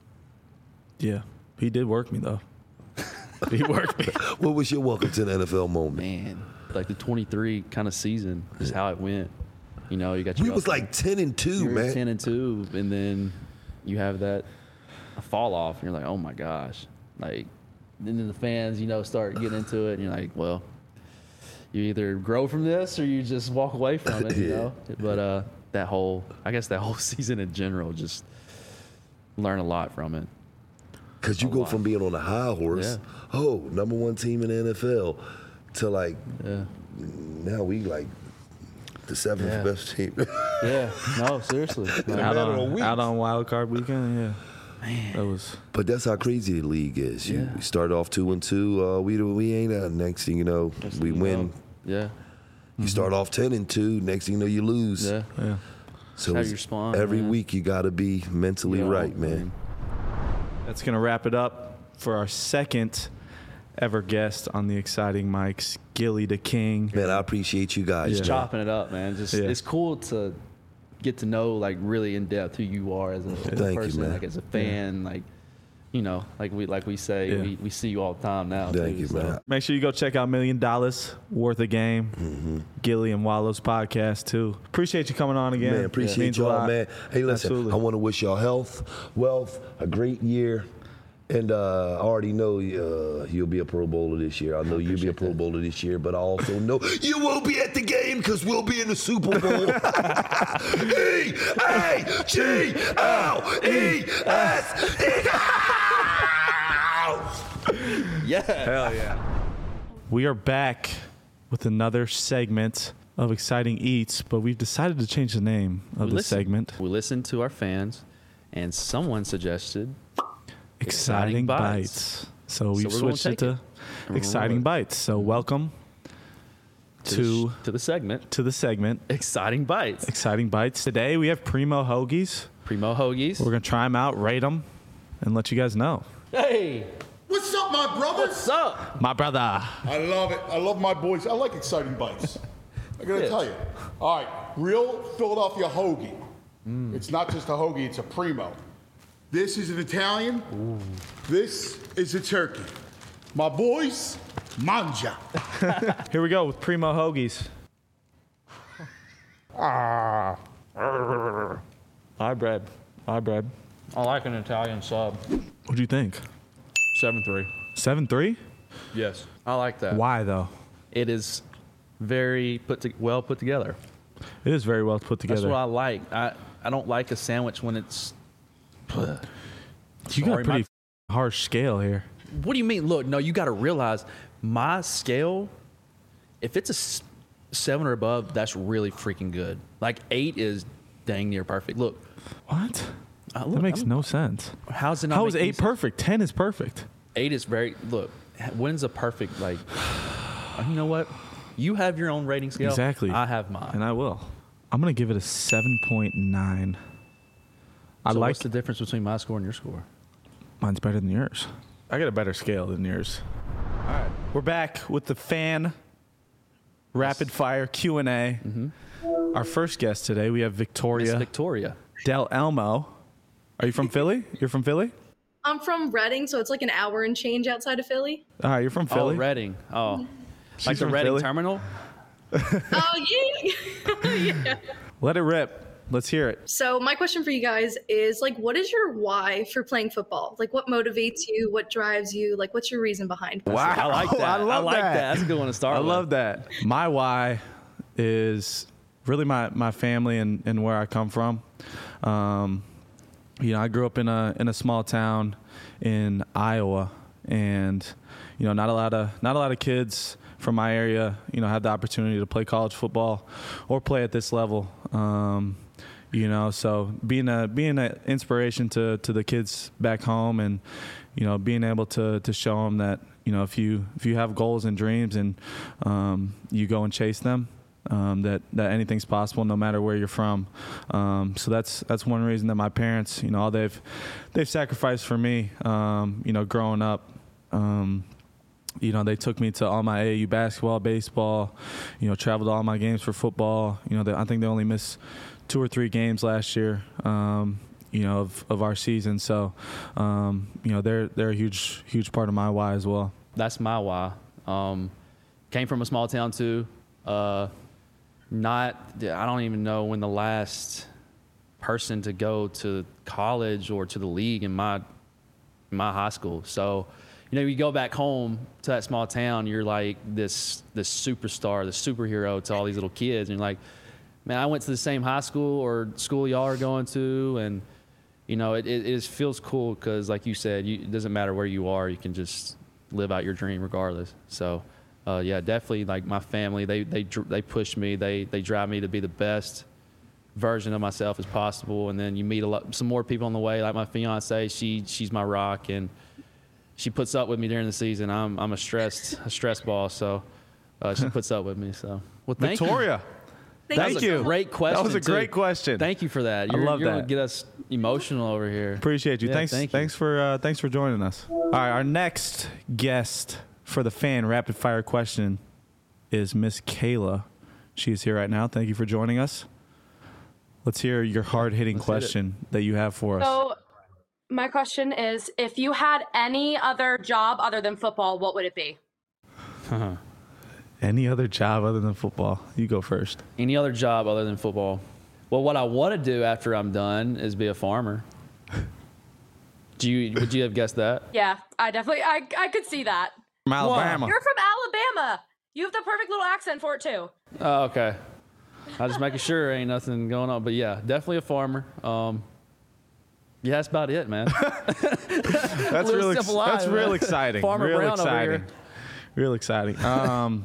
Yeah. He did work me though. He worked me. What was your welcome to the N F L moment? Man, like the twenty-three kind of season, just how it went. You know, you got your We was up- like ten and two, you were man. ten and two, and then you have that fall off, and you're like, oh my gosh, like, and then the fans, you know, start getting into it, and you're like, well, you either grow from this or you just walk away from it, you Yeah. know. But uh, that whole, I guess that whole season in general, just learn a lot from it. Because you A go lot. from being on a high horse, oh, number one team in the N F L, to like, Yeah, now we like the seventh Yeah. best team. yeah, no, seriously. Like, out matter of on weeks. out on wild card weekend. Yeah. That was. But that's how crazy the league is. You Yeah. we start off two and two. Uh, we we ain't uh, next thing you know, next we thing you win. know, Yeah, You start off ten and two. Next thing you know, you lose. yeah. Yeah. So how it's- you respond, every man. week you got to be mentally Yeah, right, man. That's going to wrap it up for our second ever guest on the Exciting Mics, Gilly the King. Man, I appreciate you guys. Yeah. Chopping it up, man. Just Yeah. it's cool to get to know like really in depth who you are as a, as a Thank you, person, man. like as a fan, like you know, like we like we say, Yeah. we, we see you all the time now. Thank too, you, so. man. Make sure you go check out Million Dollars Worth a Game, Mm-hmm. Gilly and Wallow's podcast too. Appreciate you coming on again. Man, appreciate Means a y'all, lot. man. Hey, listen, Absolutely. I want to wish y'all health, wealth, a great year. And uh, I already know uh, you'll be a Pro Bowler this year. I know you'll be a Pro Bowler this year, but I also know you won't be at the game because we'll be in the Super Bowl. E A G L E S. Yeah. Hell yeah. We are back with another segment of Exciting Eats, but we've decided to change the name of We the listen- segment. We listened to our fans, and someone suggested Exciting, Exciting Bites. Bites. So we've we're gonna switched it take to it. And we're Exciting rolling. Bites. So welcome to, to the, sh- to the segment to the segment Exciting Bites. Exciting Bites. Today we have Primo Hoagies. Primo Hoagies. We're gonna try them out, rate them, and let you guys know. Hey, What's up, my brothers? what's up? My brother. I love it. I love my boys. I like exciting bites. I gotta Yes. tell you. All right, real Philadelphia hoagie. It's not just a hoagie, it's a primo. This is an Italian. This is a turkey. My boys, mangia. Here we go with Primo Hoagies. Ah. Hi, bread. Hi, bread. I like an Italian sub. What do you think? seven three. seven three? Yes. I like that. Why, though? It is very put to, well put together. It is very well put together. That's what I like. I, I don't like a sandwich when it's. you got a Sorry, pretty my- harsh scale here. What do you mean? Look, no, you got to realize my scale, if it's a s- seven or above, that's really freaking good. Like eight is dang near perfect. Look, What? uh, That look, makes I'm- no sense. how's it not? How make is any eight sense? perfect? ten is perfect. Eight is very. Look, when's a perfect, like, you know what? You have your own rating scale. Exactly. I have mine. And I will. I'm going to give it a seven point nine. I so like what's the difference between my score and your score? Mine's better than yours. I got a better scale than yours. All right. We're back with the fan rapid fire Q and A. Our first guest today, we have Miss Victoria Victoria. Del Elmo. Are you from Philly? You're from Philly? I'm from Reading, so it's like an hour and change outside of Philly. All right, you're from Philly. Oh, Reading. Oh, like the from Reading Philly? Terminal. Oh, yeah. yeah. Let it rip. Let's hear it. So my question for you guys is like, what is your why for playing football? Like, what motivates you? What drives you? Like, what's your reason behind? Wow. I like that. I love like that. That's a good one to start I with. love that. My why is really my, my family and, and where I come from. Um, you know, I grew up in a in a small town in Iowa, and you know, not a lot of not a lot of kids from my area, you know, had the opportunity to play college football or play at this level. Um, you know, so being a being an inspiration to to the kids back home, and you know, being able to to show them that, you know, if you if you have goals and dreams and um, you go and chase them, um, that that anything's possible no matter where you're from. Um, so that's that's one reason that my parents, you know, all they've they've sacrificed for me, um, you know, growing up. Um, you know, they took me to all my A A U basketball, baseball, you know, traveled to all my games for football. You know, they, I think they only missed two or three games last year, um, you know, of, of our season. So, um, you know, they're they're a huge, huge part of my why as well. That's my why. Um, came from a small town too. Uh, not, I don't even know when the last person to go to college or to the league in my in my high school. So, you know, you go back home to that small town, you're like this this superstar, this superhero to all these little kids, and you're like, man, I went to the same high school or school y'all are going to, and you know, it it, it just feels cool because, like you said, you, it doesn't matter where you are, you can just live out your dream regardless. So, uh, yeah, definitely, like my family, they they dr- they push me, they they drive me to be the best version of myself as possible, and then you meet a lot, some more people on the way, like my fiance, she she's my rock, and she puts up with me during the season. I'm I'm a stressed a stress ball, so uh, she puts up with me. So, well, thank Victoria, Thank, thank you. you. so much. Great question. That was a too. great question. Thank you for that. I You're, love you're that. gonna get us emotional over here. Appreciate you. Yeah, thanks. thank you. Thanks for uh, thanks for joining us. All right, our next guest for the fan rapid fire question is Miss Kayla. She's here right now. Thank you for joining us. Let's hear your hard hitting Let's hit it. question that you have for us. So, My question is, if you had any other job other than football, what would it be? Any other job other than football? You go first. Any other job other than football? Well, what I want to do after I'm done is be a farmer. Do you? Would you have guessed that? Yeah, I definitely, I, I could see that. From Alabama. You're from Alabama. You have the perfect little accent for it, too. Oh, okay. I just making sure ain't nothing going on. But yeah, definitely a farmer. Um, yeah, that's about it, man. That's real. Ex- life, that's man. real exciting. Farmer real Brown exciting. over here. Real exciting. Um,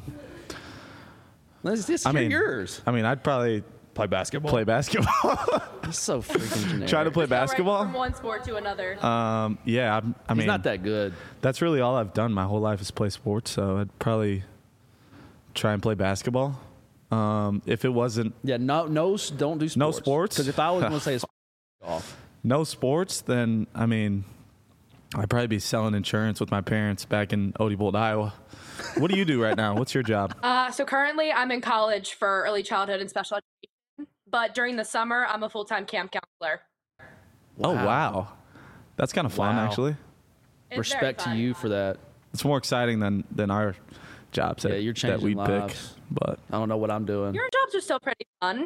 Let's just I hear mean, yours. I mean, I'd probably Play basketball. play basketball. It's so freaking generic. Try to play Go right basketball. from one sport to another. Um, yeah, I'm, I He's mean, not that good. that's really all I've done my whole life is play sports. So I'd probably try and play basketball. Um, if it wasn't Yeah, no, no, s- don't do sports. No sports? Because if I was going to say it's off. no sports, then I mean, I'd probably be selling insurance with my parents back in Odebolt, Iowa. What do you do right now? What's your job? Uh, so currently I'm in college for early childhood and special education, but during the summer I'm a full-time camp counselor. Oh wow, that's kind of fun Wow. actually. It's very Respect to fun. you for that. It's more exciting than than our jobs that, Yeah, you're that we changing pick. lives. But I don't know what I'm doing. Your jobs are still pretty fun.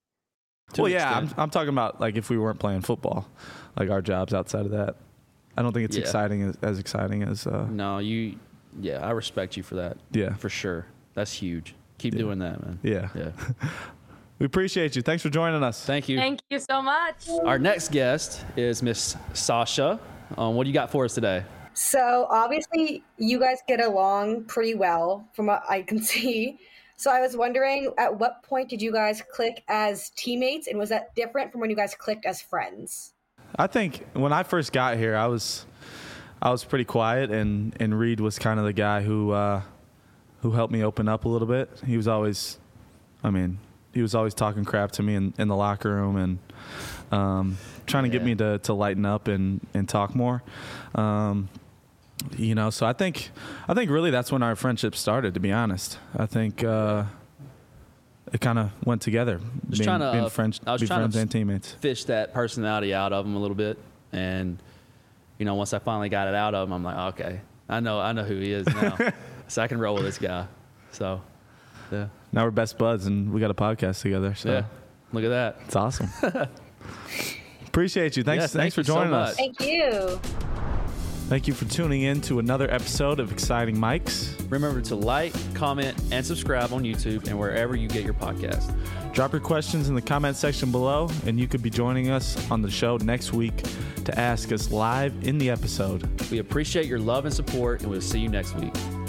To well, an yeah, I'm, extent. I'm talking about like if we weren't playing football, like our jobs outside of that. I don't think it's Yeah. exciting as, as exciting as. Uh, No, you. Yeah, I respect you for that. Yeah. for sure. That's huge. Keep Yeah. doing that, man. Yeah. Yeah. We appreciate you. Thanks for joining us. Thank you. Thank you so much. Our next guest is Miss Sasha. Um, what do you got for us today? So obviously you guys get along pretty well from what I can see. So I was wondering, at what point did you guys click as teammates, and was that different from when you guys clicked as friends? I think when I first got here, I was I was pretty quiet, and, and Reed was kind of the guy who uh, who helped me open up a little bit. He was always, I mean, he was always talking crap to me in, in the locker room and um, trying to get Yeah. me to, to lighten up and, and talk more. Um, you know, so I think I think really that's when our friendship started. To be honest, I think uh, it kind of went together. Just being, trying to, being uh, friends, I was be trying to friends f- and teammates. Fish that personality out of him a little bit, and you know, once I finally got it out of him, I'm like, okay, I know, I know who he is now, so I can roll with this guy. So, yeah, Now we're best buds, and we got a podcast together. So yeah, look at that. it's awesome. Appreciate you. Thanks, Yeah, thanks thank for you so joining us. much. Thank you. Thank you for tuning in to another episode of Exciting Mics. Remember to like, comment, and subscribe on YouTube and wherever you get your podcast. Drop your questions in the comment section below, and you could be joining us on the show next week to ask us live in the episode. We appreciate your love and support, and we'll see you next week.